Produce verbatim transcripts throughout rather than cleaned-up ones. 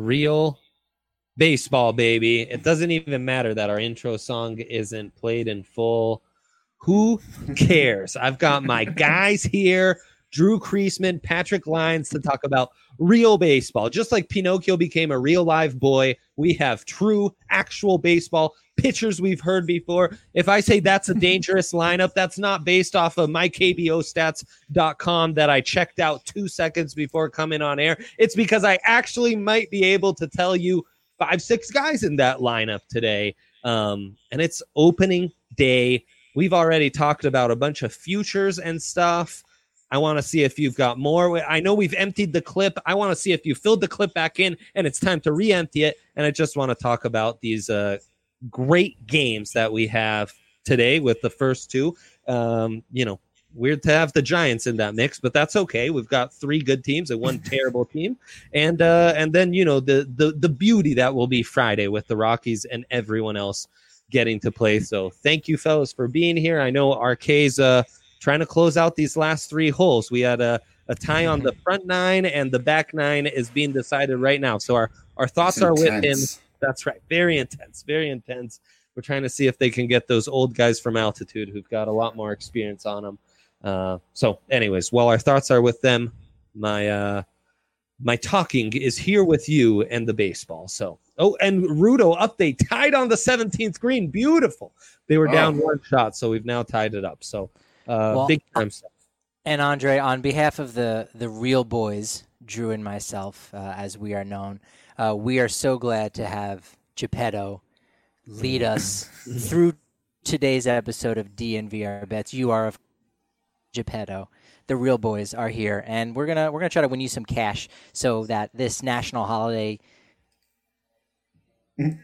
real baseball, baby. It doesn't even matter that our intro song isn't played in full. Who cares? I've got my guys here, Drew Creasman, Patrick Lyons, to talk about real baseball. Just like Pinocchio became a real live boy, we have true, actual baseball pitchers we've heard before. If I say that's a dangerous lineup, that's not based off of my K B O stats dot com that I checked out two seconds before coming on air. It's because I actually might be able to tell you five, six guys in that lineup today. Um, and it's opening day. We've already talked about a bunch of futures and stuff. I want to see if you've got more. I know we've emptied the clip. I want to see if you filled the clip back in and it's time to re-empty it. And I just want to talk about these uh, great games that we have today with the first two. Um, you know, weird to have the Giants in that mix, but that's okay. We've got three good teams and one terrible team. And uh, and then, you know, the, the, the beauty that will be Friday with the Rockies and everyone else getting to play. So thank you, fellas, for being here. I know R K's uh, trying to close out these last three holes. We had a, a tie on the front nine, and the back nine is being decided right now. So our, our thoughts are with him. That's right. Very intense, very intense. We're trying to see if they can get those old guys from altitude who've got a lot more experience on them. Uh, so anyways, while our thoughts are with them, my uh, my talking is here with you and the baseball. So, oh, and Rudo update, tied on the seventeenth green. Beautiful. They were down oh. one shot, so we've now tied it up. So uh, well, big time stuff. And Andre, on behalf of the, the real boys, Drew and myself, uh, as we are known, uh, we are so glad to have Geppetto lead us through today's episode of D N V R Bets. You are, of Geppetto. The real boys are here, and we're gonna we're gonna try to win you some cash so that this national holiday. oh,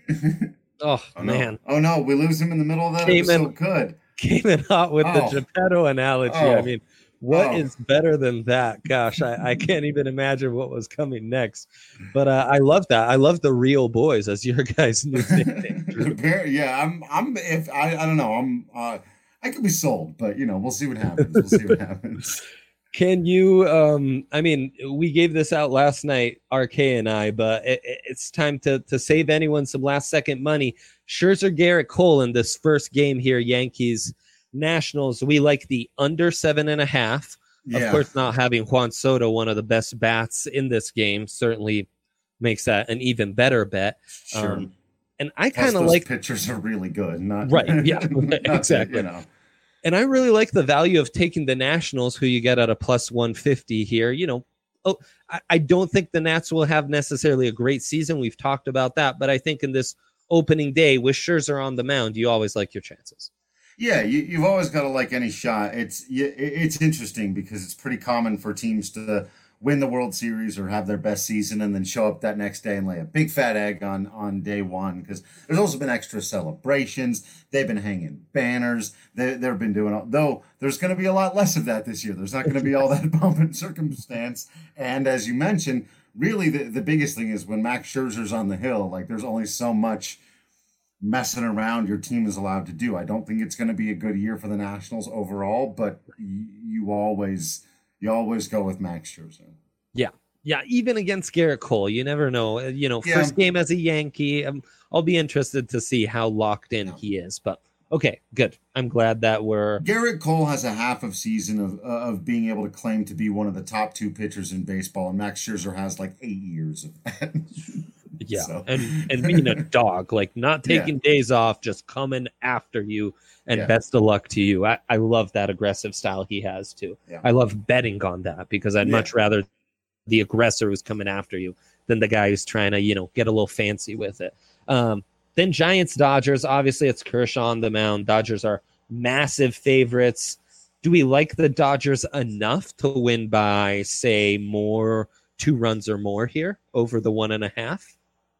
oh man! No. Oh no, we lose him in the middle of that. Came it was in, so good. Came in hot with oh. the Geppetto analogy. Oh. I mean, what oh. is better than that? Gosh, I, I can't even imagine what was coming next. But uh, I love that. I love the real boys as your guys' new nickname. yeah, I'm. I'm. If I, I don't know. I'm. Uh, I could be sold, but, you know, we'll see what happens. We'll see what happens. Can you, um, I mean, we gave this out last night, R K and I, but it, it's time to, to save anyone some last second money. Scherzer, Garrett Cole in this first game here, Yankees, Nationals. We like the under seven and a half. Yeah. Of course, not having Juan Soto, one of the best bats in this game, certainly makes that an even better bet. Sure. Um, And I kind of like pitchers are really good, not right. Yeah, not exactly. To, you know. And I really like the value of taking the Nationals, who you get at a plus one fifty here. You know, oh, I, I don't think the Nats will have necessarily a great season. We've talked about that, but I think in this opening day with Scherzer on the mound, you always like your chances. Yeah, you, you've always got to like any shot. It's it's interesting because it's pretty common for teams to win the World Series or have their best season and then show up that next day and lay a big fat egg on, on day one, because there's also been extra celebrations. They've been hanging banners. They, they've been doing all, though there's going to be a lot less of that this year. There's not going to be all that bump and circumstance. And as you mentioned, really the, the biggest thing is when Max Scherzer's on the hill, like there's only so much messing around your team is allowed to do. I don't think it's going to be a good year for the Nationals overall, but you, you always... You always go with Max Scherzer. Yeah. Yeah. Even against Garrett Cole, you never know. You know, yeah. First game as a Yankee, um, I'll be interested to see how locked in yeah. he is. But okay, good. I'm glad that we're. Garrett Cole has a half of season of uh, of being able to claim to be one of the top two pitchers in baseball, and Max Scherzer has like eight years of that. yeah. So. And, and being a dog, like not taking yeah. days off, just coming after you. And yeah. best of luck to you. I, I love that aggressive style he has, too. Yeah. I love betting on that because I'd yeah. much rather the aggressor who's coming after you than the guy who's trying to, you know, get a little fancy with it. Um, then Giants, Dodgers. Obviously, it's Kershaw on the mound. Dodgers are massive favorites. Do we like the Dodgers enough to win by, say, more two runs or more here over the one and a half?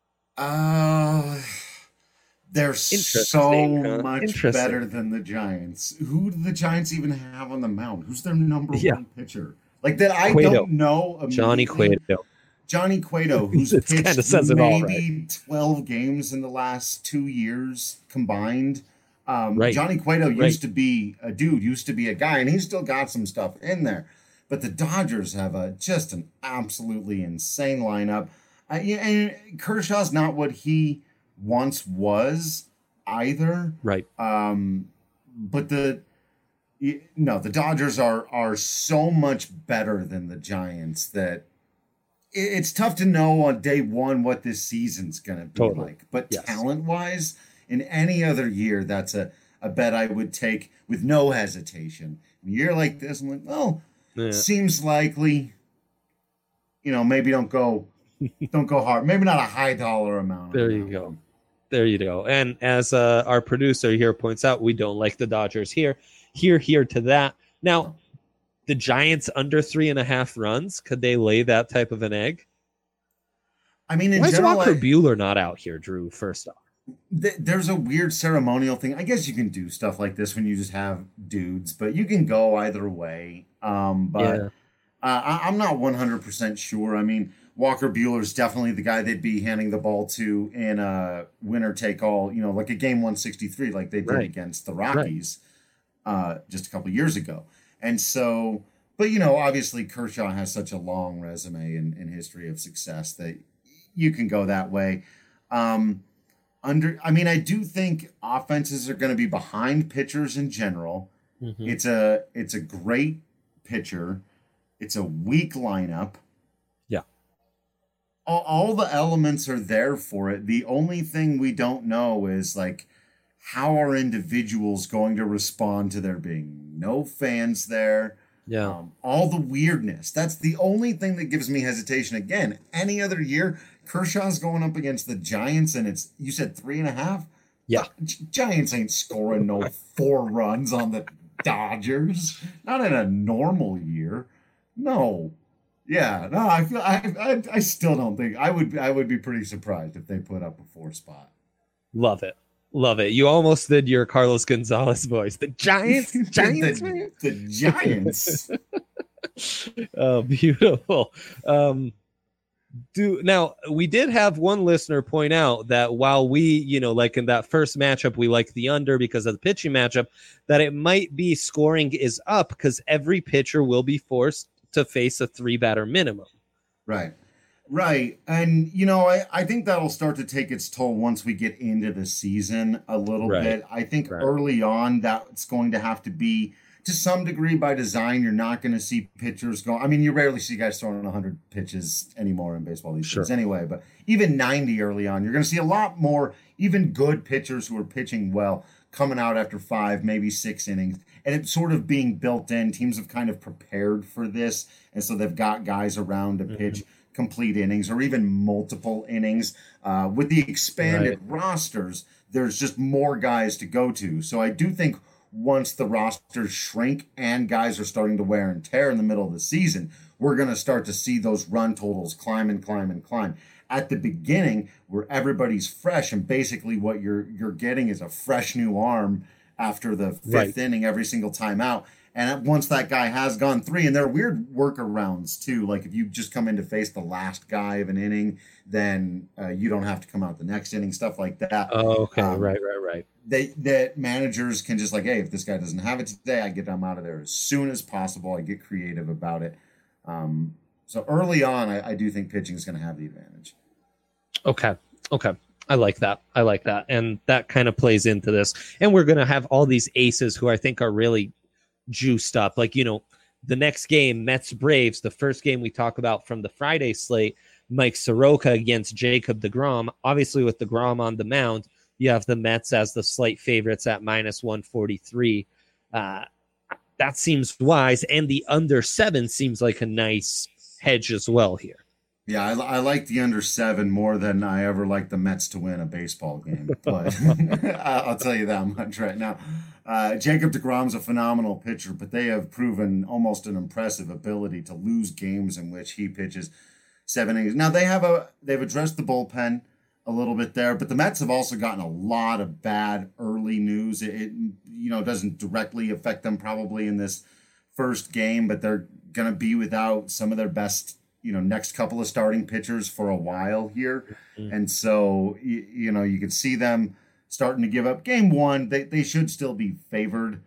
Uh... They're so huh? much better than the Giants. Who do the Giants even have on the mound? Who's their number yeah. one pitcher? Like that I Cueto. don't know. Johnny Cueto. Johnny Cueto, who's pitched says maybe all, right? twelve games in the last two years combined. Um, right. Johnny Cueto right. used to be a dude, used to be a guy, and he's still got some stuff in there. But the Dodgers have a just an absolutely insane lineup. I, and Kershaw's not what he once was either. Right. Um, but the no, the Dodgers are are so much better than the Giants that it's tough to know on day one what this season's going to be totally. like. But yes. talent wise, in any other year, that's a, a bet I would take with no hesitation. In a year like this, I'm like, well, yeah. seems likely. You know, maybe don't go, don't go hard. Maybe not a high dollar amount. There you go. One. There you go. And as uh, our producer here points out, we don't like the Dodgers here. Here, here to that. Now, the Giants under three and a half runs. Could they lay that type of an egg? I mean, in why general, is Walker I, Buehler not out here, Drew? First off, th- there's a weird ceremonial thing. I guess you can do stuff like this when you just have dudes, but you can go either way. Um, but. Yeah. Uh, I, I'm not one hundred percent sure. I mean, Walker Buehler is definitely the guy they'd be handing the ball to in a winner take all, you know, like a game one sixty-three, like they did right. against the Rockies right. uh, just a couple of years ago. And so, but, you know, obviously Kershaw has such a long resume and, and history of success that you can go that way. Um, under, I mean, I do think offenses are going to be behind pitchers in general. Mm-hmm. It's a, it's a great pitcher. It's a weak lineup. Yeah. All, all the elements are there for it. The only thing we don't know is, like, how are individuals going to respond to there being no fans there? Yeah. Um, all the weirdness. That's the only thing that gives me hesitation. Again, any other year, Kershaw's going up against the Giants, and it's, you said three and a half? Yeah. G- Giants ain't scoring no four runs on the Dodgers. Not in a normal year. No, yeah, no. I feel I, I I still don't think I would. I would be pretty surprised if they put up a four spot. Love it, love it. You almost did your Carlos Gonzalez voice. The Giants, Giants, the, the Giants. Oh, beautiful. Um, do now we did have one listener point out that while we, you know, like in that first matchup, we like the under because of the pitching matchup, that it might be scoring is up because every pitcher will be forced to face a three batter minimum. Right. Right. And, you know, I, I think that'll start to take its toll once we get into the season a little right. bit. I think right. early on that's going to have to be to some degree by design. You're not going to see pitchers go. I mean, you rarely see guys throwing one hundred pitches anymore in baseball these sure. days anyway, but even ninety early on, you're going to see a lot more, even good pitchers who are pitching well coming out after five, maybe six innings. And it's sort of being built in. Teams have kind of prepared for this. And so they've got guys around to pitch mm-hmm. complete innings or even multiple innings. Uh, with the expanded right. rosters, there's just more guys to go to. So I do think once the rosters shrink and guys are starting to wear and tear in the middle of the season, we're going to start to see those run totals climb and climb and climb. At the beginning, where everybody's fresh and basically what you're you're getting is a fresh new arm after the fifth right. inning every single time out. And once that guy has gone three, and there are weird workarounds too. Like if you just come in to face the last guy of an inning, then uh, you don't have to come out the next inning, stuff like that. Oh, okay. Um, right, right, right. They that managers can just like, hey, if this guy doesn't have it today, I get him out of there as soon as possible. I get creative about it. Um, so early on, I, I do think pitching is going to have the advantage. Okay. Okay. I like that. I like that. And that kind of plays into this. And we're going to have all these aces who I think are really juiced up. Like, you know, the next game, Mets Braves, the first game we talk about from the Friday slate, Mike Soroka against Jacob deGrom. Obviously, with deGrom on the mound, you have the Mets as the slight favorites at minus one forty-three. Uh, that seems wise. And the under seven seems like a nice hedge as well here. Yeah, I, I like the under seven more than I ever liked the Mets to win a baseball game. But I'll tell you that much right now. Uh, Jacob deGrom's a phenomenal pitcher, but they have proven almost an impressive ability to lose games in which he pitches seven innings. Now they have a they've addressed the bullpen a little bit there, but the Mets have also gotten a lot of bad early news. It, it you know doesn't directly affect them probably in this first game, but they're going to be without some of their best, you know, next couple of starting pitchers for a while here. Mm-hmm. And so, you, you know, you could see them starting to give up. Game one, they, they should still be favored.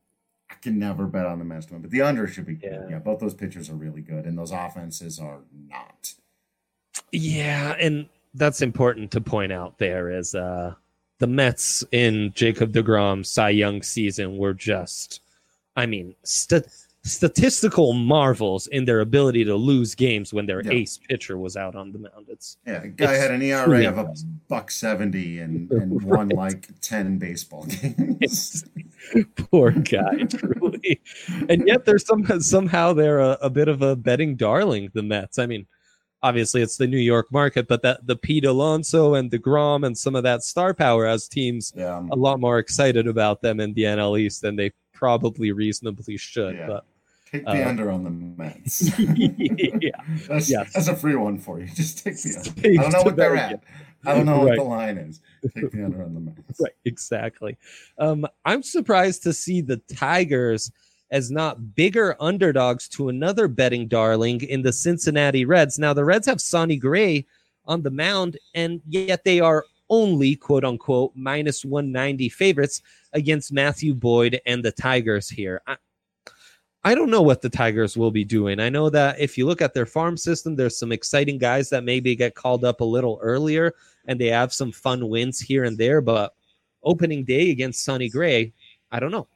I can never bet on the Mets to win, but the under should be good. Yeah. yeah, both those pitchers are really good, and those offenses are not. Yeah, and that's important to point out there is uh, the Mets in Jacob deGrom's Cy Young season were just, I mean, st- statistical marvels in their ability to lose games when their Yeah. ace pitcher was out on the mound. It's Yeah, a guy It's had an E R truly A of a impressive. buck seventy and, and won Right. like ten baseball games. poor guy, truly. And yet they're some, somehow they're a, a bit of a betting darling, the Mets. I mean, obviously it's the New York market, but that the Pete Alonso and DeGrom and some of that star power has teams Yeah, a lot more excited about them in the N L East than they probably reasonably should. Yeah. But take the uh, under on the Mets. yeah, that's, yes. that's a free one for you. Just take the under. Take I don't know the what they're bet at. I don't know Right. what the line is. Take the under on the Mets. right, exactly. Um, I'm surprised to see the Tigers as not bigger underdogs to another betting darling in the Cincinnati Reds. Now, the Reds have Sonny Gray on the mound, and yet they are only, quote unquote, minus one ninety favorites against Matthew Boyd and the Tigers here. I, I don't know what the Tigers will be doing. I know that if you look at their farm system, there's some exciting guys that maybe get called up a little earlier, and they have some fun wins here and there, but opening day against Sonny Gray, I don't know.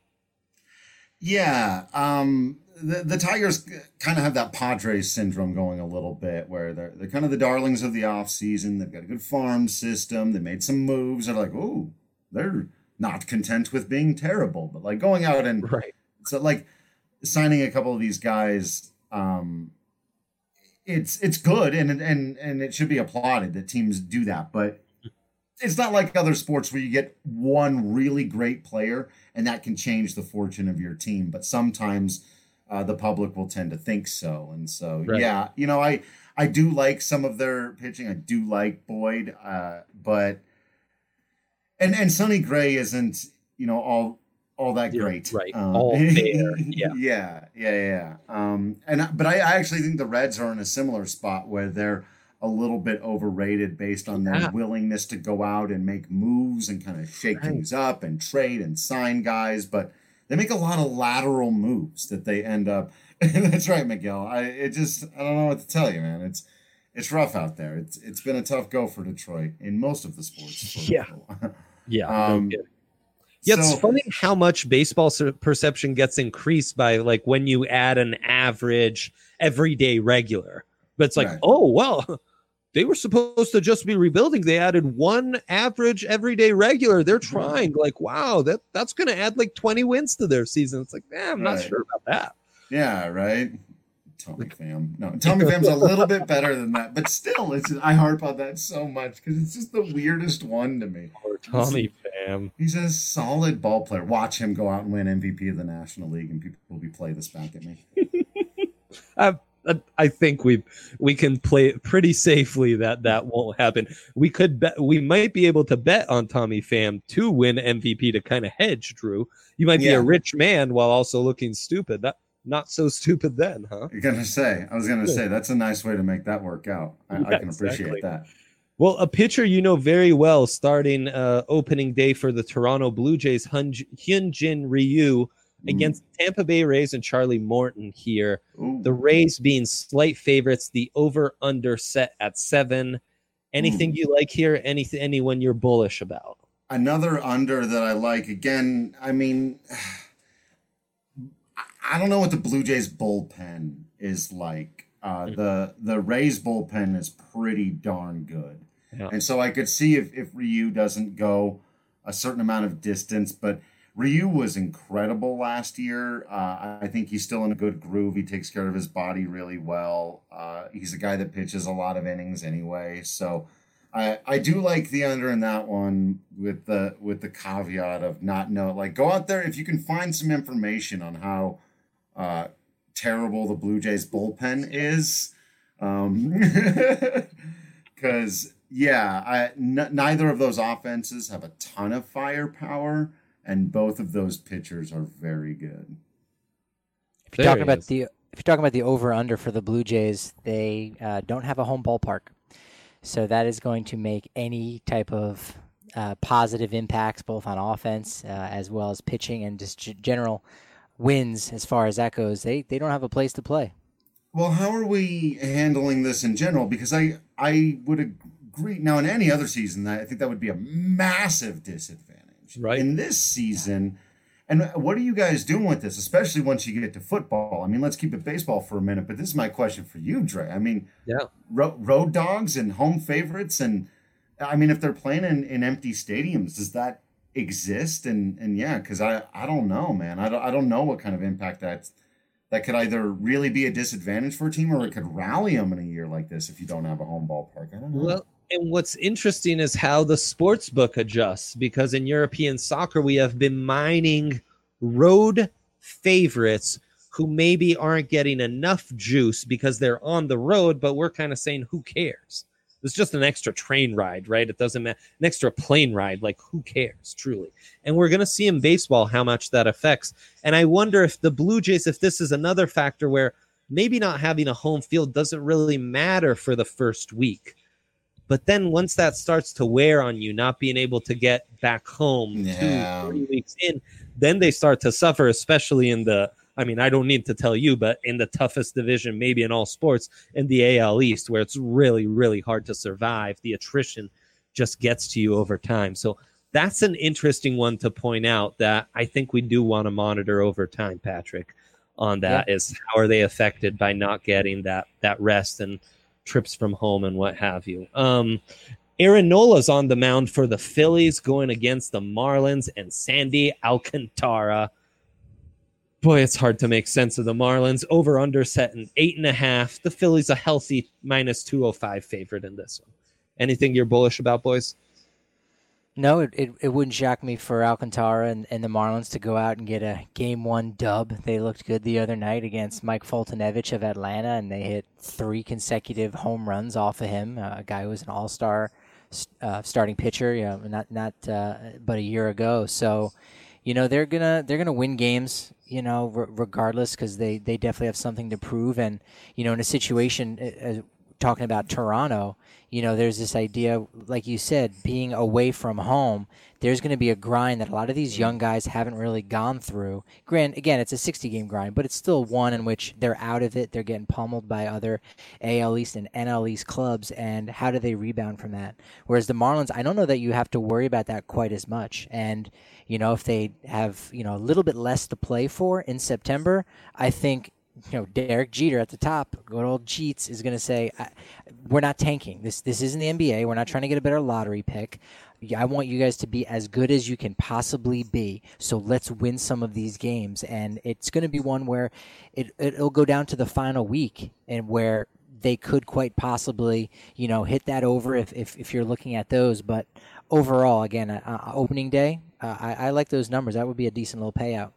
Yeah, um, the the Tigers kind of have that Padres syndrome going a little bit, where they're they're kind of the darlings of the offseason. They've got a good farm system. They made some moves. They're like, oh, they're not content with being terrible, but like going out and Right. so like signing a couple of these guys. Um, it's it's good and and and it should be applauded that teams do that, but it's not like other sports where you get one really great player and that can change the fortune of your team. But sometimes uh, the public will tend to think so. And so, Right. yeah, you know, I, I do like some of their pitching. I do like Boyd, uh, but, and, and Sonny Gray isn't, you know, all, all that Yeah, great. right. Um, All there. Yeah. yeah, yeah, yeah. Um, and, I- but I, I actually think the Reds are in a similar spot where they're a little bit overrated based on their Yeah. willingness to go out and make moves and kind of shake Right. things up and trade and sign guys, but they make a lot of lateral moves that they end up. That's right, Miguel. I it just I don't know what to tell you, man. It's it's rough out there. It's it's been a tough go for Detroit in most of the sports. for- Yeah. Yeah. no Um, kidding. Yeah, it's so- funny how much baseball ser- perception gets increased by like when you add an average everyday regular. But it's like, Right. oh, well, they were supposed to just be rebuilding. They added one average everyday regular. They're trying. Like, wow, that that's going to add like twenty wins to their season. It's like, eh, I'm not Right. sure about that. Yeah, right. Tommy Pham. No, Tommy Pham's a little bit better than that, but still, it's I harp on that so much because it's just the weirdest one to me. Or Tommy Pham. He's a solid ball player. Watch him go out and win M V P of the National League, and people will be play this back at me. I, I- I think we we can play it pretty safely that that won't happen. We could bet we might be able to bet on Tommy Pham to win M V P to kind of hedge. Drew, you might be Yeah. a rich man while also looking stupid. That not so stupid then, huh? You're gonna say, I was gonna say, that's a nice way to make that work out. I, Yeah, I can appreciate exactly. that. Well, a pitcher you know very well starting uh, opening day for the Toronto Blue Jays, Hyun- Hyunjin Ryu against Tampa Bay Rays and Charlie Morton here. Ooh. The Rays being slight favorites, the over under set at seven. Anything you like here? Anything, anyone you're bullish about? Another under that I like. Again, I mean, I- I don't know what the Blue Jays bullpen is like. Uh, the the Rays bullpen is pretty darn good, Yeah. and so I could see if if Ryu doesn't go a certain amount of distance, but Ryu was incredible last year. Uh, I think he's still in a good groove. He takes care of his body really well. Uh, he's a guy that pitches a lot of innings anyway, so. I, I do like the under in that one with the with the caveat of not know like go out there if you can find some information on how uh, terrible the Blue Jays bullpen is, because um, yeah, I n- neither of those offenses have a ton of firepower, and both of those pitchers are very good. If you're There talking he about is. the if you're talking about the over under for the Blue Jays, they uh, don't have a home ballpark, so that is going to make any type of uh, positive impacts both on offense uh, as well as pitching and just g- general wins as far as that goes. They they don't have a place to play. Well, how are we handling this in general? Because I I would agree. Now, in any other season, I think that would be a massive disadvantage. Right. In this season, and what are you guys doing with this, especially once you get to football? I mean, let's keep it baseball for a minute, but this is my question for you, Dre. I mean, yeah, ro- road dogs and home favorites, and I mean, if they're playing in, in empty stadiums, does that exist? And and yeah, because I, I don't know, man. I don't, I don't know what kind of impact that's that could either really be a disadvantage for a team or it could rally them in a year like this if you don't have a home ballpark. I don't know. Well, and what's interesting is how the sports book adjusts, because in European soccer, we have been mining road favorites who maybe aren't getting enough juice because they're on the road, but we're kind of saying, who cares? It's just an extra train ride, right? It doesn't matter. An extra plane ride, like who cares, truly? And we're going to see in baseball how much that affects. And I wonder if the Blue Jays, if this is another factor where maybe not having a home field doesn't really matter for the first week. But then once that starts to wear on you, not being able to get back home Yeah. two, three weeks in, then they start to suffer, especially in the, I mean, I don't need to tell you, but in the toughest division, maybe in all sports, in the A L East, where it's really, really hard to survive. The attrition just gets to you over time. So that's an interesting one to point out that I think we do want to monitor over time, Patrick, on that, yeah. is how are they affected by not getting that that rest and trips from home and what have you. Um, Aaron Nola's on the mound for the Phillies going against the Marlins and Sandy Alcantara. Boy, it's hard to make sense of the Marlins. Over under set an eight and a half. The Phillies a healthy minus two oh five favorite in this one. Anything you're bullish about, boys? No, it, it, it wouldn't shock me for Alcantara and, and the Marlins to go out and get a game one dub. They looked good the other night against Mike Foltynewicz of Atlanta, and they hit three consecutive home runs off of him, uh, a guy who was an all-star uh, starting pitcher, you know, not not uh, but a year ago. So, you know, they're gonna they're gonna win games, you know, r- regardless, because they, they definitely have something to prove. And, you know, in a situation uh, talking about Toronto, you know, there's this idea, like you said, being away from home, there's going to be a grind that a lot of these young guys haven't really gone through. Grant, again, it's a sixty-game grind, but it's still one in which they're out of it. They're getting pummeled by other A L East and N L East clubs, and how do they rebound from that? Whereas the Marlins, I don't know that you have to worry about that quite as much. And, you know, if they have, you know, a little bit less to play for in September, I think, you know, Derek Jeter at the top, good old Jeets, is going to say, we're not tanking. This this isn't the N B A. We're not trying to get a better lottery pick. I want you guys to be as good as you can possibly be. So let's win some of these games. And it's going to be one where it, it'll go down to the final week and where they could quite possibly, you know, hit that over if, if, if you're looking at those. But overall, again, uh, opening day, uh, I, I like those numbers. That would be a decent little payout.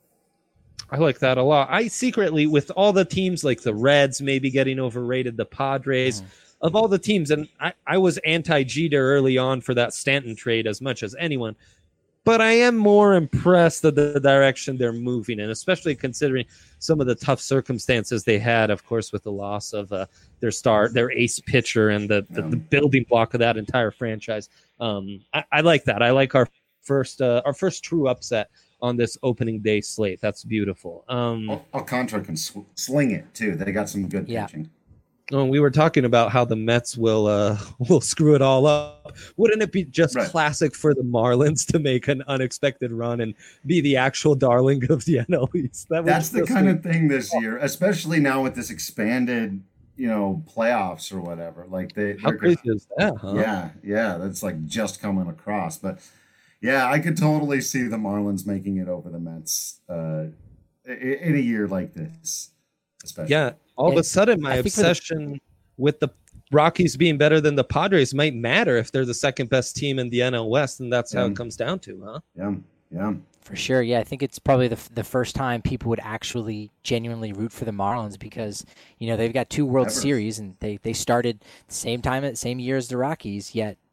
I like that a lot. I secretly, with all the teams like the Reds maybe getting overrated, the Padres, mm. of all the teams, and I, I was anti-Jeter early on for that Stanton trade as much as anyone, but I am more impressed at the direction they're moving in, especially considering some of the tough circumstances they had, of course, with the loss of uh, their star, their ace pitcher, and the, the, the building block of that entire franchise. Um, I, I like that. I like our first uh, our first true upset on this opening day slate. That's beautiful. Um, Alcantara can sw- sling it too. They got some good yeah. pitching. Oh, we were talking about how the Mets will uh, will screw it all up. Wouldn't it be just right. classic for the Marlins to make an unexpected run and be the actual darling of the N L East? That That's the kind of thing this year, especially now with this expanded, you know, playoffs or whatever. Like they, how crazy is that? Huh? Yeah, yeah, that's like just coming across, but. Yeah, I could totally see the Marlins making it over the Mets uh, in a year like this, especially. Yeah, all of a sudden, my obsession the- with the Rockies being better than the Padres might matter if they're the second best team in the N L West, and that's yeah. how it comes down to, huh? Yeah, yeah. For sure, yeah. I think it's probably the the first time people would actually genuinely root for the Marlins because, you know, they've got two World Ever. Series and they, they started the same time at the same year as the Rockies, yet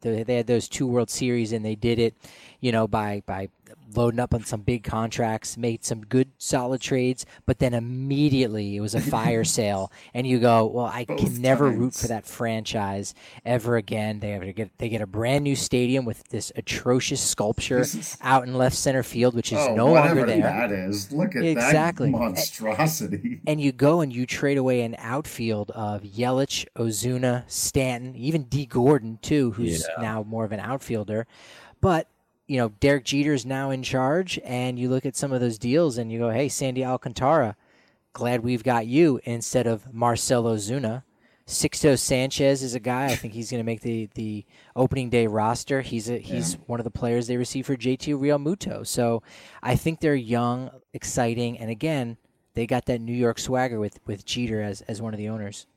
They, they had those two World Series, and they did it, you know, by by loading up on some big contracts, made some good solid trades, but then immediately it was a fire sale, and you go, well, I Both can never times. root for that franchise ever again. They have to get they get a brand new stadium with this atrocious sculpture This is- out in left center field, which is oh, no whatever longer there. that is. Look at Exactly. that monstrosity. And you go and you trade away an outfield of Yelich, Ozuna, Stanton, even D. Gordon, too, who's Yeah. now more of an outfielder. But, you know, Derek Jeter's now in charge, and you look at some of those deals and you go, hey, Sandy Alcantara, glad we've got you instead of Marcell Ozuna. Sixto Sanchez is a guy. I think he's going to make the, the opening day roster. He's a, he's Yeah. one of the players they received for J T Realmuto. So I think they're young, exciting, and again, they got that New York swagger with, with Jeter as, as one of the owners.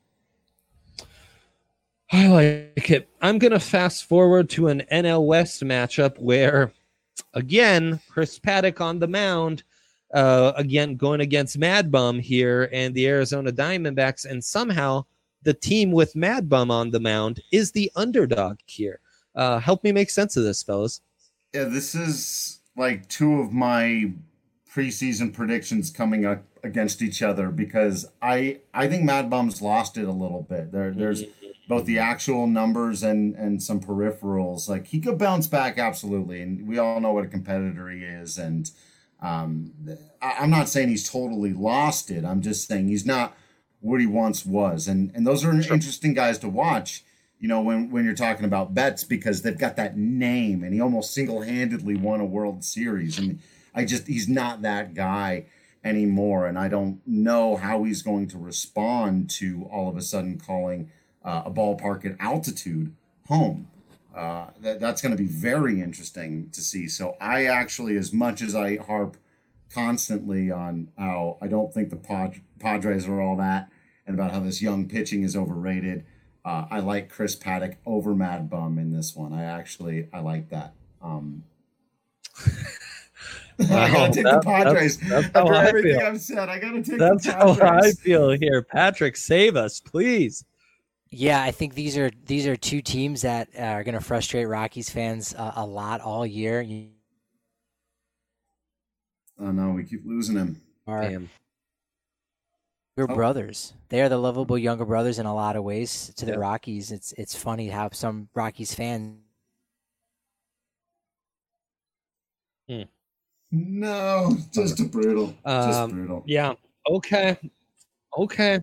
I like it. I'm going to fast forward to an N L West matchup where, again, Chris Paddock on the mound, uh, again, going against Mad Bum here and the Arizona Diamondbacks, and somehow the team with Mad Bum on the mound is the underdog here. Uh, help me make sense of this, fellas. Yeah, this is like two of my preseason predictions coming up against each other because I I think Mad Bum's lost it a little bit. There there's both the actual numbers and and some peripherals. Like he could bounce back absolutely, and we all know what a competitor he is. And um, I, I'm not saying he's totally lost it. I'm just saying he's not what he once was. And and those are Sure. interesting guys to watch. You know, when, when you're talking about Betts, because they've got that name, and he almost single-handedly won a World Series. And I just, he's not that guy anymore. And I don't know how he's going to respond to all of a sudden calling uh, a ballpark at altitude home. Uh, that, that's going to be very interesting to see. So I actually, as much as I harp constantly on how I don't think the Pad- Padres are all that, and about how this young pitching is overrated, Uh, I like Chris Paddock over Mad Bum in this one. I actually I like that. Um, I gotta take that- the Padres. that's- that's how After I everything feel. I've said, I gotta take That's the how Padres. I feel here. Patrick, save us, please. Yeah, I think these are these are two teams that are going to frustrate Rockies fans uh, a lot all year. You Oh no, we keep losing him. are Damn. younger Oh. brothers. They are the lovable younger brothers in a lot of ways to the Yeah. Rockies. It's it's funny how some Rockies fans No, just a brutal. just Um, brutal. Yeah. Okay. Okay.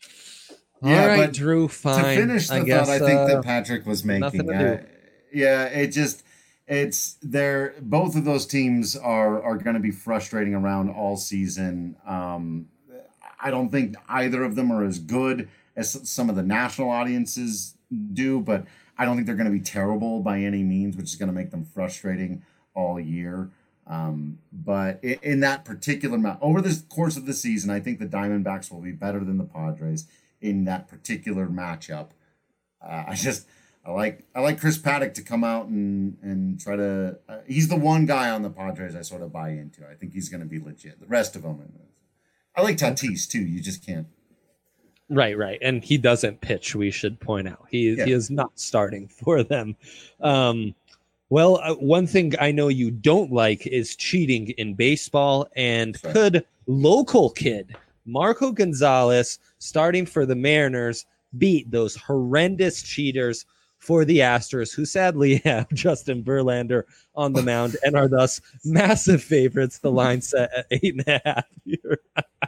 Yeah, All right, but Drew. Fine. To finish the I guess, thought I think uh, that Patrick was nothing making. to Uh, yeah, it just it's they're both of those teams are are going to be frustrating around all season. Um, I don't think either of them are as good as some of the national audiences do, but I don't think they're going to be terrible by any means, which is going to make them frustrating all year. Um, but in, in that particular match, over the course of the season, I think the Diamondbacks will be better than the Padres in that particular matchup. Uh, I just I like I like Chris Paddock to come out and and try to. Uh, he's the one guy on the Padres I sort of buy into. I think he's going to be legit. The rest of them, I like Tatis too. You just can't. Right, right. And he doesn't pitch, we should point out. He, Yeah. he is not starting for them. Um, well, uh, one thing I know you don't like is cheating in baseball. And Right. could local kid Marco Gonzalez, starting for the Mariners, beat those horrendous cheaters for the Astros, who sadly have Justin Verlander on the mound and are thus massive favorites? The line set at eight and a half here.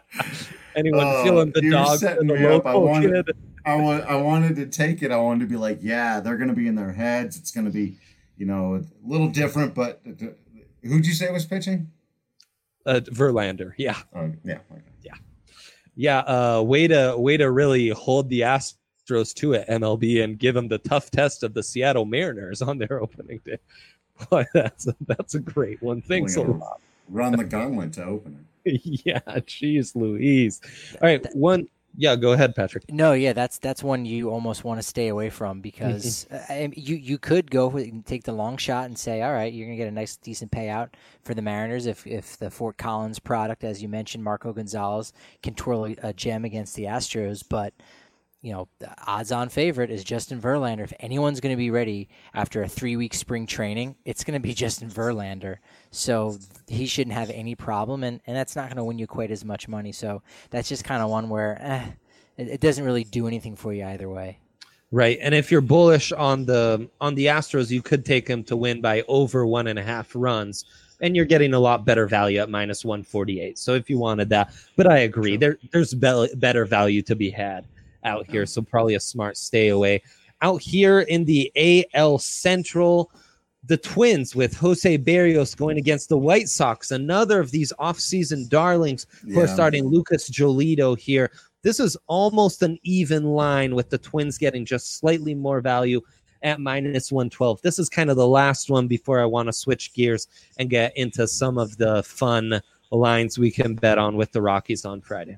Anyone Oh, feeling the you're dog for setting the me up. I local wanted- kid? I want. I wanted to take it. I wanted to be like, yeah, they're going to be in their heads. It's going to be, you know, a little different. But who'd you say was pitching? Uh, Verlander, yeah, Oh, yeah. Okay. yeah. Uh, way to way to really hold the Astros to it, M L B, and give them the tough test of the Seattle Mariners on their opening day. Boy, that's a, that's a great one. Thanks a Pulling lot. Run the gauntlet to open it. Yeah, geez, Louise. All right, one. Yeah, go ahead, Patrick. No, yeah, that's that's one you almost want to stay away from because uh, I mean, you you could go with- and take the long shot and say, all right, you're gonna get a nice decent payout for the Mariners if if the Fort Collins product, as you mentioned, Marco Gonzalez can twirl a gem against the Astros. But you know, the odds-on favorite is Justin Verlander. If anyone's going to be ready after a three-week spring training, it's going to be Justin Verlander. So he shouldn't have any problem, and, and that's not going to win you quite as much money. So that's just kind of one where eh, it, it doesn't really do anything for you either way. Right, and if you're bullish on the on the Astros, you could take them to win by over one and a half runs, and you're getting a lot better value at minus one forty-eight. So if you wanted that, but I agree, there there's be- better value to be had out here, so probably a smart stay away. Out here in the A L Central, the Twins with Jose Berrios going against the White Sox, another of these offseason darlings who Yeah. are starting Lucas Giolito here. This is almost an even line with the Twins getting just slightly more value at minus one twelve. This is kind of the last one before I want to switch gears and get into some of the fun lines we can bet on with the Rockies on Friday.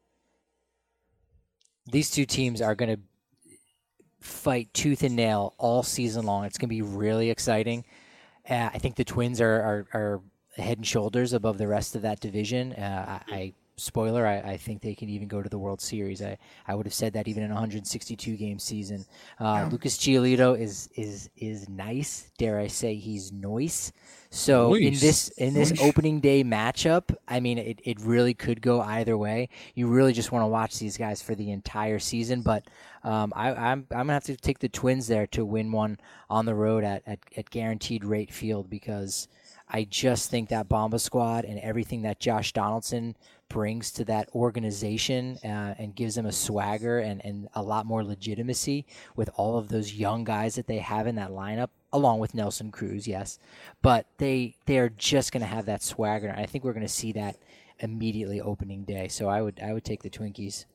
These two teams are going to fight tooth and nail all season long. It's going to be really exciting. Uh, I think the Twins are, are, are head and shoulders above the rest of that division. Uh, I, I spoiler, I, I think they can even go to the World Series. I, I would have said that even in a one hundred sixty-two game season. Uh, Yeah. Lucas Giolito is is is nice. Dare I say he's nice. So in Nice. this in this Nice. opening day matchup, I mean, it, it really could go either way. You really just want to watch these guys for the entire season. But um, I, I'm I'm gonna have to take the Twins there to win one on the road at, at, at Guaranteed Rate Field, because I just think that Bomba squad and everything that Josh Donaldson brings to that organization uh, and gives them a swagger and, and a lot more legitimacy with all of those young guys that they have in that lineup, along with Nelson Cruz, yes. But they they are just going to have that swagger, and I think we're going to see that immediately opening day. So I would I would take the Twinkies.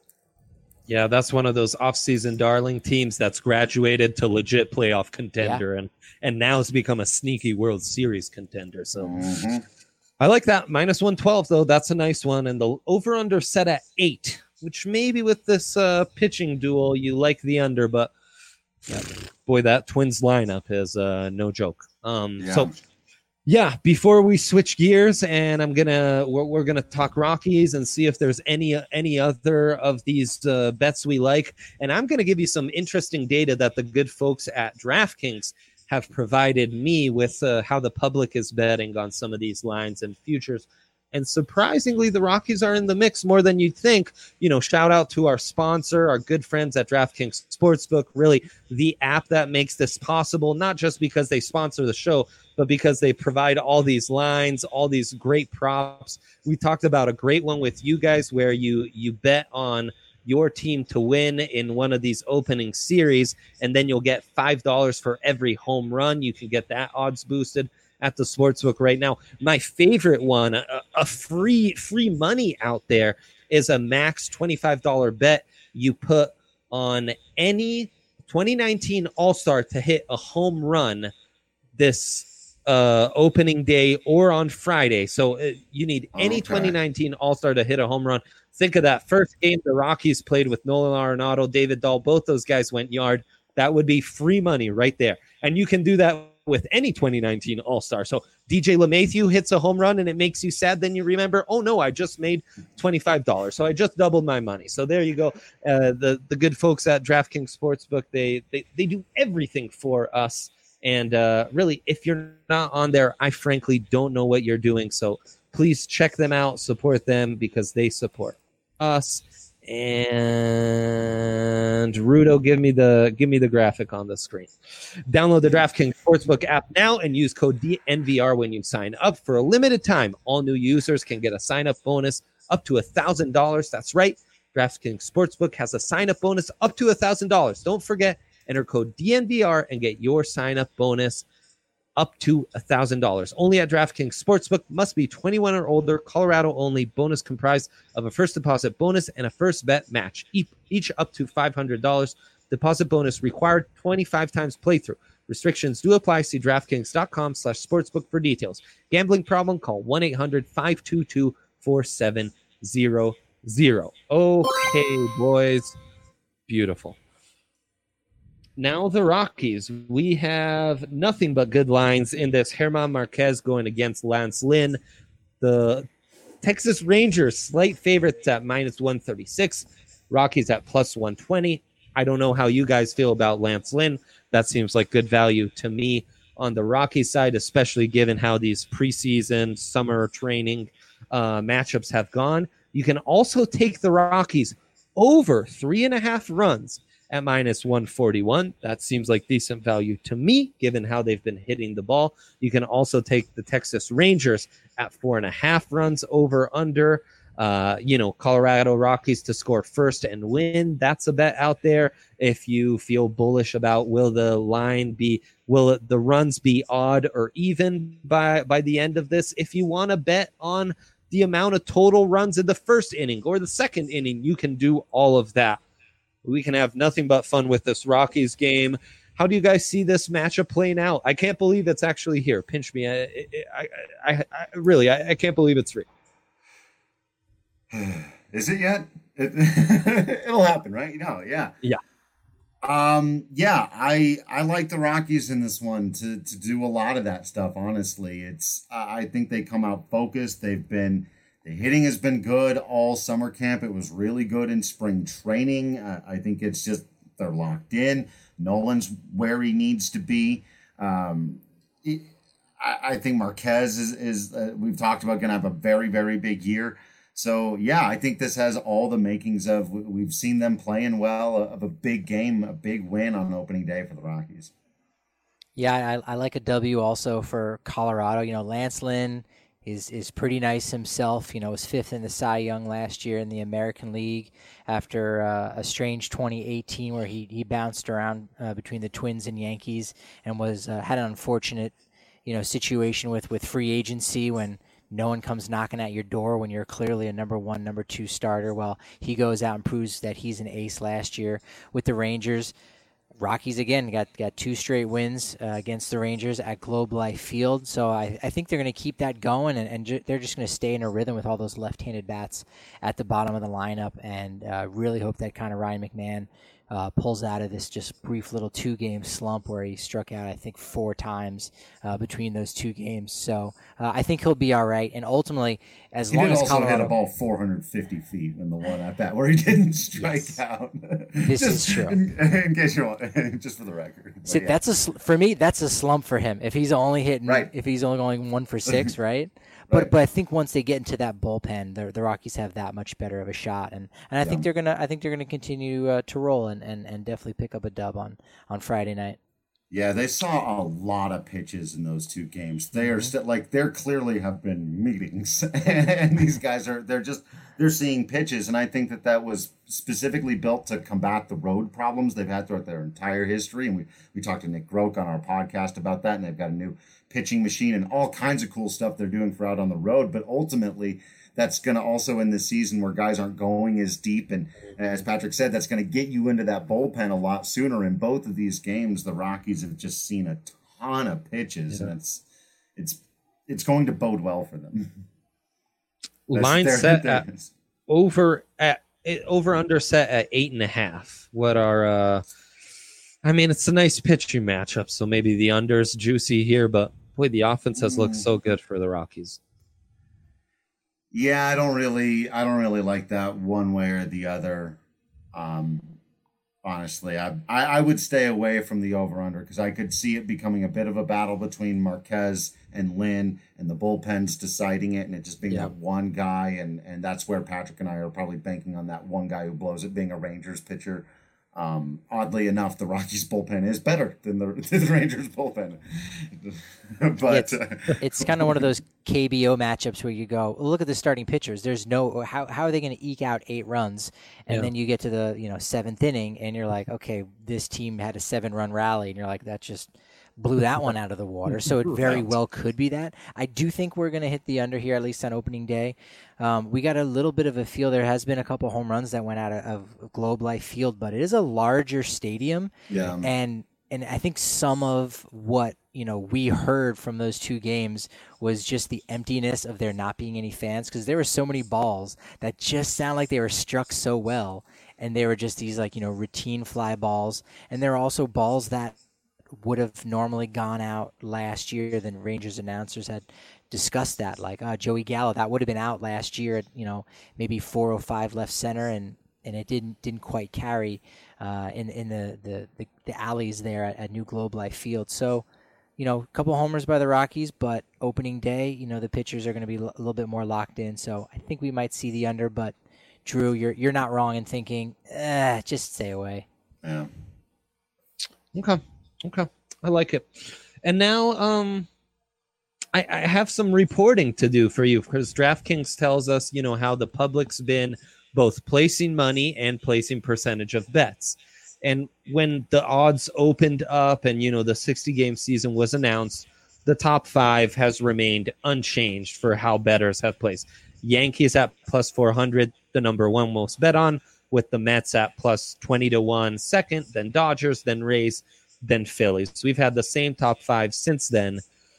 Yeah, that's one of those off-season darling teams that's graduated to legit playoff contender, and and now has become a sneaky World Series contender. So Mhm. I like that. minus one twelve, though. That's a nice one. And the over-under set at eight, which maybe with this uh, pitching duel, you like the under, but yeah, boy, that Twins lineup is uh, no joke. Um, Yeah. So, yeah, before we switch gears, and I'm gonna we're, we're gonna talk Rockies and see if there's any any other of these uh, bets we like, and I'm gonna give you some interesting data that the good folks at DraftKings have provided me with uh, how the public is betting on some of these lines and futures. And surprisingly, the Rockies are in the mix more than you'd think. You know, shout out to our sponsor, our good friends at DraftKings Sportsbook, really the app that makes this possible, not just because they sponsor the show, but because they provide all these lines, all these great props. We talked about a great one with you guys where you you bet on your team to win in one of these opening series, and then you'll get five dollars for every home run. You can get that odds boosted at the Sportsbook right now. My favorite one, a, a free free money out there, is a max twenty-five dollars bet you put on any twenty nineteen All-Star to hit a home run this uh, opening day or on Friday. So uh, you need any Okay. twenty nineteen All-Star to hit a home run. Think of that first game the Rockies played with Nolan Arenado, David Dahl. Both those guys went yard. That would be free money right there. And you can do that with any twenty nineteen All-Star. So D J LeMahieu hits a home run and it makes you sad. Then you remember, oh no, I just made twenty-five dollars. So I just doubled my money. So there you go. Uh, the, the good folks at DraftKings Sportsbook, they, they, they do everything for us. And uh, really, if you're not on there, I frankly don't know what you're doing. So please check them out, support them, because they support us. And Rudo, give me the give me the graphic on the screen. Download the DraftKings Sportsbook app now and use code D N V R when you sign up. For a limited time, all new users can get a sign-up bonus up to one thousand dollars. That's right. DraftKings Sportsbook has a sign-up bonus up to one thousand dollars. Don't forget, enter code D N V R and get your sign-up bonus up to one thousand dollars. Only at DraftKings Sportsbook. Must be twenty-one or older. Colorado only. Bonus comprised of a first deposit bonus and a first bet match, each, each up to five hundred dollars. Deposit bonus required twenty-five times playthrough. Restrictions do apply. See DraftKings.com slash sportsbook for details. Gambling problem? Call one eight hundred five two two four seven zero zero. Okay, boys. Beautiful. Now the Rockies. We have nothing but good lines in this. German Marquez going against Lance Lynn. The Texas Rangers, slight favorites at minus one thirty-six. Rockies at plus one twenty. I don't know how you guys feel about Lance Lynn. That seems like good value to me on the Rockies side, especially given how these preseason summer training uh, matchups have gone. You can also take the Rockies over three and a half runs at minus one forty-one. That seems like decent value to me, given how they've been hitting the ball. You can also take the Texas Rangers at four and a half runs over under. Uh, you know, Colorado Rockies to score first and win. That's a bet out there. If you feel bullish about will the line be, will it, the runs be odd or even by, by the end of this? If you want to bet on the amount of total runs in the first inning or the second inning, you can do all of that. We can have nothing but fun with this Rockies game. How do you guys see this matchup playing out? I can't believe it's actually here. Pinch me. I, I, I, I really, I, I can't believe it's real. Is it yet? It, it'll happen, right? You know, yeah. Yeah. Um, yeah, I I like the Rockies in this one to to do a lot of that stuff, honestly. It's I think they come out focused. They've been the hitting has been good all summer camp. It was really good in spring training. Uh, I think it's just they're locked in. Nolan's where he needs to be. Um, it, I, I think Marquez is is uh, we've talked about going to have a very very big year. So, yeah, I think this has all the makings of, we've seen them playing well, of a big game, a big win on opening day for the Rockies. Yeah, I, I like a W also for Colorado. You know, Lance Lynn is, is pretty nice himself. You know, was fifth in the Cy Young last year in the American League after uh, a strange twenty eighteen where he, he bounced around uh, between the Twins and Yankees and was uh, had an unfortunate, you know, situation with, with free agency when no one comes knocking at your door when you're clearly a number one, number two starter. Well, he goes out and proves that he's an ace last year with the Rangers. Rockies, again, got, got two straight wins uh, against the Rangers at Globe Life Field. So I, I think they're going to keep that going, and, and ju- they're just going to stay in a rhythm with all those left-handed bats at the bottom of the lineup, and uh, really hope that kind of Ryan McMahon Uh, pulls out of this just brief little two-game slump where he struck out, I think, four times uh, between those two games. So uh, I think he'll be all right. And ultimately, as he long did as also Colorado... hit a ball four hundred fifty feet in the one at bat where he didn't strike yes. out. This just, is true. In, in case you want, just for the record. See, yeah. that's a sl- for me. That's a slump for him. If he's only hitting, right. if he's only going one for six, right? But right. but I think once they get into that bullpen, the the Rockies have that much better of a shot, and, and I yeah. think they're gonna I think they're gonna continue uh, to roll and, and, and definitely pick up a dub on, on Friday night. Yeah, they saw a lot of pitches in those two games. They are still like they're clearly have been meetings, and these guys are they're just they're seeing pitches, and I think that that was specifically built to combat the road problems they've had throughout their entire history. And we we talked to Nick Groke on our podcast about that, and they've got a new pitching machine and all kinds of cool stuff they're doing for out on the road. But ultimately, that's going to also in this season where guys aren't going as deep. And as Patrick said, that's going to get you into that bullpen a lot sooner. In both of these games, the Rockies have just seen a ton of pitches, yeah. and it's it's it's going to bode well for them. Line their, set their, at over at over under set at eight and a half. What are uh I mean, it's a nice pitching matchup, so maybe the under's juicy here, but boy, the offense has looked so good for the Rockies. Yeah, I don't really, I don't really like that one way or the other. Um, honestly, I, I, I would stay away from the over/under because I could see it becoming a bit of a battle between Marquez and Lynn, and the bullpen's deciding it, and it just being yeah. that one guy, and and that's where Patrick and I are probably banking on that one guy who blows it, being a Rangers pitcher. Um, oddly enough, the Rockies bullpen is better than the, the Rangers bullpen. but it's, it's kind of one of those K B O matchups where you go, look at the starting pitchers. There's no how how are they going to eke out eight runs, and yeah. then you get to the you know seventh inning, and you're like, okay, this team had a seven run rally, and you're like, that just blew that one out of the water. So it very well could be that. I do think we're going to hit the under here, at least on opening day. Um, we got a little bit of a feel. There has been a couple home runs that went out of, of Globe Life Field, but it is a larger stadium. Yeah. And and I think some of what you know we heard from those two games was just the emptiness of there not being any fans, because there were so many balls that just sound like they were struck so well, and they were just these like you know routine fly balls, and there are also balls that would have normally gone out last year. Then Rangers announcers had discussed that, like uh, Joey Gallo, that would have been out last year at, you know, maybe four oh five left center, and and it didn't didn't quite carry uh, in in the, the, the, the alleys there at, at New Globe Life Field. So, you know, a couple homers by the Rockies, but opening day, you know, the pitchers are going to be a little bit more locked in. So I think we might see the under, but Drew, you're you're not wrong in thinking, eh, just stay away. Yeah. Okay. Okay. I like it. And now um, I, I have some reporting to do for you because DraftKings tells us, you know, how the public's been both placing money and placing percentage of bets. And when the odds opened up and, you know, the sixty game season was announced, the top five has remained unchanged for how bettors have placed. Yankees at plus four hundred, the number one most bet on, with the Mets at plus twenty to one second, then Dodgers, then Rays, then Phillies. So we've had the same top five since then.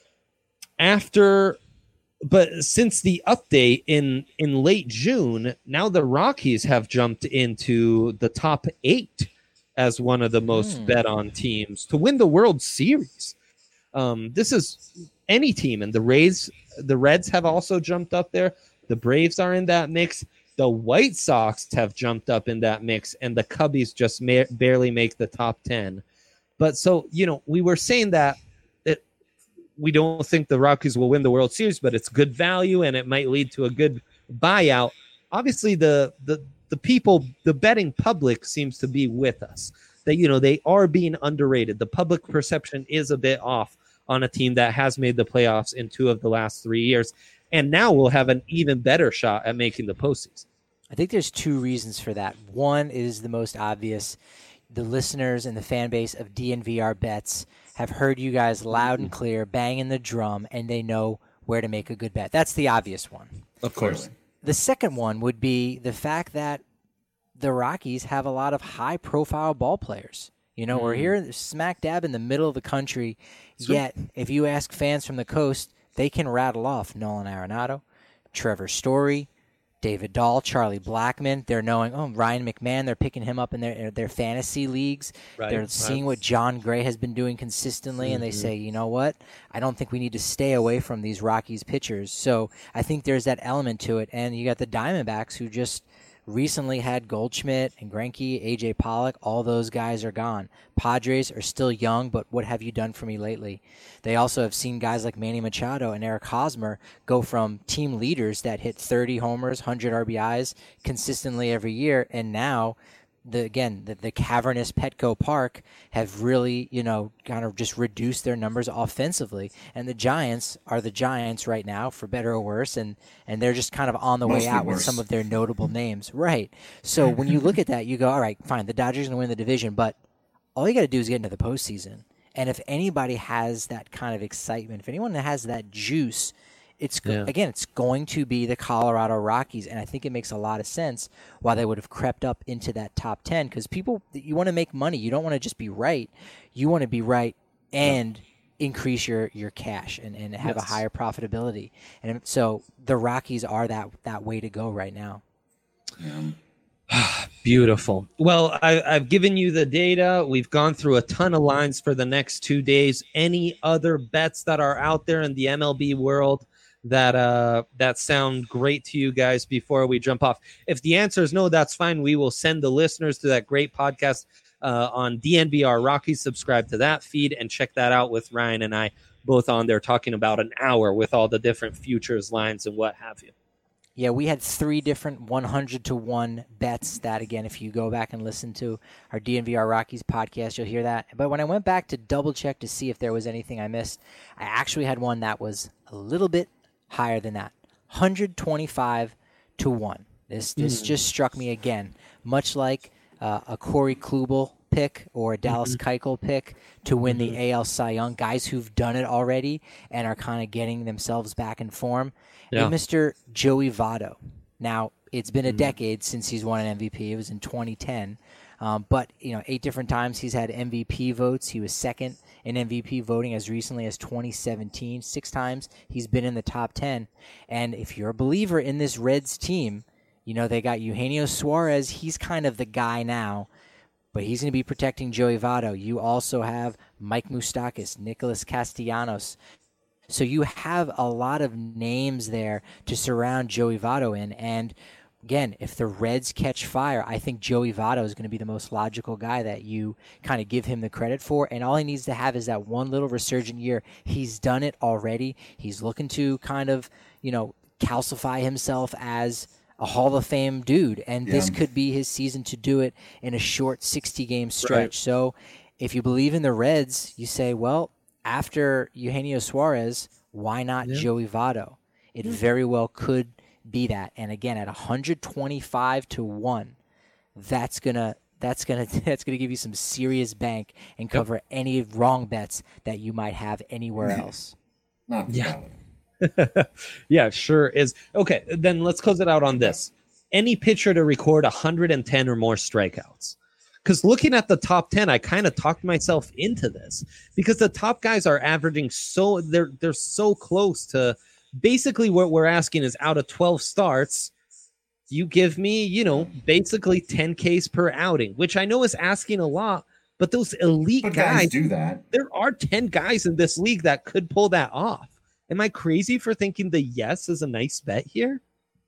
After, but since the update in, in late June, now the Rockies have jumped into the top eight as one of the most mm. bet on teams to win the World Series. Um, this is any team, and the Rays, the Reds have also jumped up there. The Braves are in that mix. The White Sox have jumped up in that mix, and the Cubbies just ma- barely make the top ten. But so, you know, we were saying that it, we don't think the Rockies will win the World Series, but it's good value, and it might lead to a good buyout. Obviously, the the the people, the betting public seems to be with us. That, you know, they are being underrated. The public perception is a bit off on a team that has made the playoffs in two of the last three years. And now we'll have an even better shot at making the postseason. I think there's two reasons for that. One is the most obvious. The listeners and the fan base of D N V R Bets have heard you guys loud and clear, banging the drum, and they know where to make a good bet. That's the obvious one. Of course. The second one would be the fact that the Rockies have a lot of high-profile ball players. You know, mm. we're here smack dab in the middle of the country, Sweet. Yet if you ask fans from the coast, they can rattle off Nolan Arenado, Trevor Story, David Dahl, Charlie Blackmon. They're knowing, oh, Ryan McMahon, they're picking him up in their their fantasy leagues. Right, they're right. seeing what John Gray has been doing consistently, mm-hmm. and they say, you know what? I don't think we need to stay away from these Rockies pitchers. So I think there's that element to it. And you got the Diamondbacks who just recently had Goldschmidt and Greinke, A J Pollock. All those guys are gone. Padres are still young, but what have you done for me lately? They also have seen guys like Manny Machado and Eric Hosmer go from team leaders that hit thirty homers, one hundred R B Is consistently every year, and now the again the, the cavernous Petco Park have really, you know, kind of just reduced their numbers offensively. And the Giants are the Giants right now, for better or worse, and and they're just kind of on the Mostly way out worse. With some of their notable names. Right. So when you look at that, you go, all right, fine, the Dodgers are going to win the division, but all you got to do is get into the postseason. And if anybody has that kind of excitement, if anyone has that juice, it's yeah. again, it's going to be the Colorado Rockies, and I think it makes a lot of sense why they would have crept up into that top ten, because people, you want to make money. You don't want to just be right. You want to be right and yeah. increase your, your cash and, and have yes. a higher profitability. And so the Rockies are that, that way to go right now. Yeah. Beautiful. Well, I, I've given you the data. We've gone through a ton of lines for the next two days. Any other bets that are out there in the M L B world that uh that sound great to you guys before we jump off? If the answer is no, that's fine. We will send the listeners to that great podcast uh, on D N V R Rockies. Subscribe to that feed and check that out with Ryan and I both on there talking about an hour with all the different futures lines and what have you. Yeah, we had three different one hundred to one bets that, again, if you go back and listen to our D N V R Rockies podcast, you'll hear that. But when I went back to double check to see if there was anything I missed, I actually had one that was a little bit higher than that, one hundred twenty-five to one. This this mm. just struck me again, much like uh, a Corey Kluber pick or a Dallas mm-hmm. Keuchel pick to win mm-hmm. the A L Cy Young, guys who've done it already and are kind of getting themselves back in form. Yeah. And Mister Joey Votto. Now, it's been a mm-hmm. decade since he's won an M V P. It was in twenty ten. Um, but, you know, eight different times he's had M V P votes. He was second in M V P voting as recently as twenty seventeen. Six times he's been in the top ten. And if you're a believer in this Reds team, you know, they got Eugenio Suarez. He's kind of the guy now, but he's going to be protecting Joey Votto. You also have Mike Moustakas, Nicholas Castellanos. So you have a lot of names there to surround Joey Votto in. And again, if the Reds catch fire, I think Joey Votto is going to be the most logical guy that you kind of give him the credit for. And all he needs to have is that one little resurgent year. He's done it already. He's looking to kind of, you know, calcify himself as a Hall of Fame dude. And yeah. this could be his season to do it in a short sixty-game stretch. Right. So if you believe in the Reds, you say, well, after Eugenio Suarez, why not yeah. Joey Votto? It yeah. very well could be that. And again, at one twenty-five to one, that's gonna that's gonna that's gonna give you some serious bank and cover yep. any wrong bets that you might have anywhere else. Not yeah. yeah, sure is. Okay, then let's close it out on this. Any pitcher to record one hundred ten or more strikeouts. Because looking at the top ten, I kind of talked myself into this because the top guys are averaging so they're they're so close to. Basically, what we're asking is out of twelve starts, you give me, you know, basically ten Ks per outing, which I know is asking a lot, but those elite but guys, guys do that. There are ten guys in this league that could pull that off. Am I crazy for thinking the yes is a nice bet here?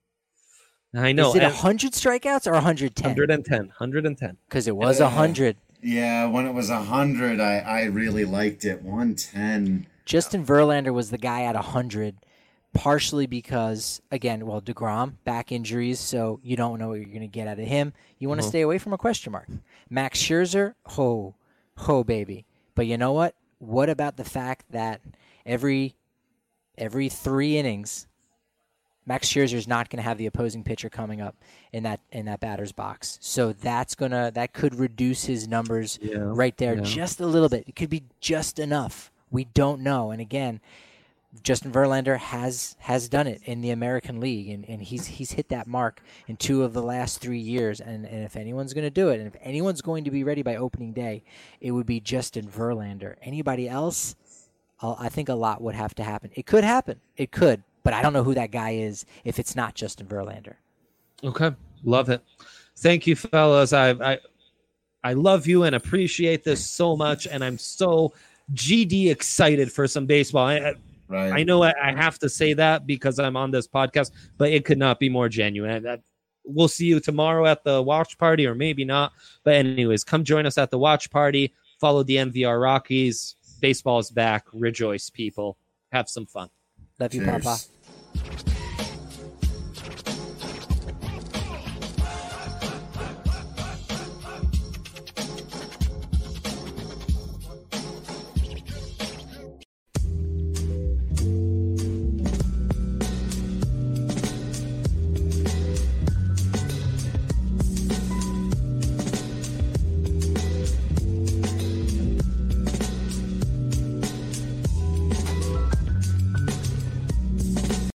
I know. Is it one hundred strikeouts or one hundred ten? one hundred ten. one hundred ten. Because it was uh, one hundred. Yeah, when it was one hundred, I, I really liked it. one ten. Justin Verlander was the guy at one hundred. Partially because, again, well, DeGrom, back injuries, so you don't know what you're going to get out of him. You want to uh-huh. stay away from a question mark. Max Scherzer, ho, ho, baby. But you know what? What about the fact that every every three innings, Max Scherzer is not going to have the opposing pitcher coming up in that in that batter's box. So that's gonna that could reduce his numbers yeah. right there yeah. just a little bit. It could be just enough. We don't know. And again, Justin Verlander has has done it in the American League, and, and he's he's hit that mark in two of the last three years. And, and if anyone's going to do it, and if anyone's going to be ready by opening day, it would be Justin Verlander. Anybody else, I'll, I think a lot would have to happen. It could happen. It could. But I don't know who that guy is if it's not Justin Verlander. Okay. Love it. Thank you, fellas. I I, I love you and appreciate this so much, and I'm so G D excited for some baseball. I, Right. I know I have to say that because I'm on this podcast, but it could not be more genuine. I, we'll see you tomorrow at the watch party, or maybe not. But anyways, come join us at the watch party. Follow the M V R Rockies. Baseball is back. Rejoice, people. Have some fun. Love you, Cheers. Papa.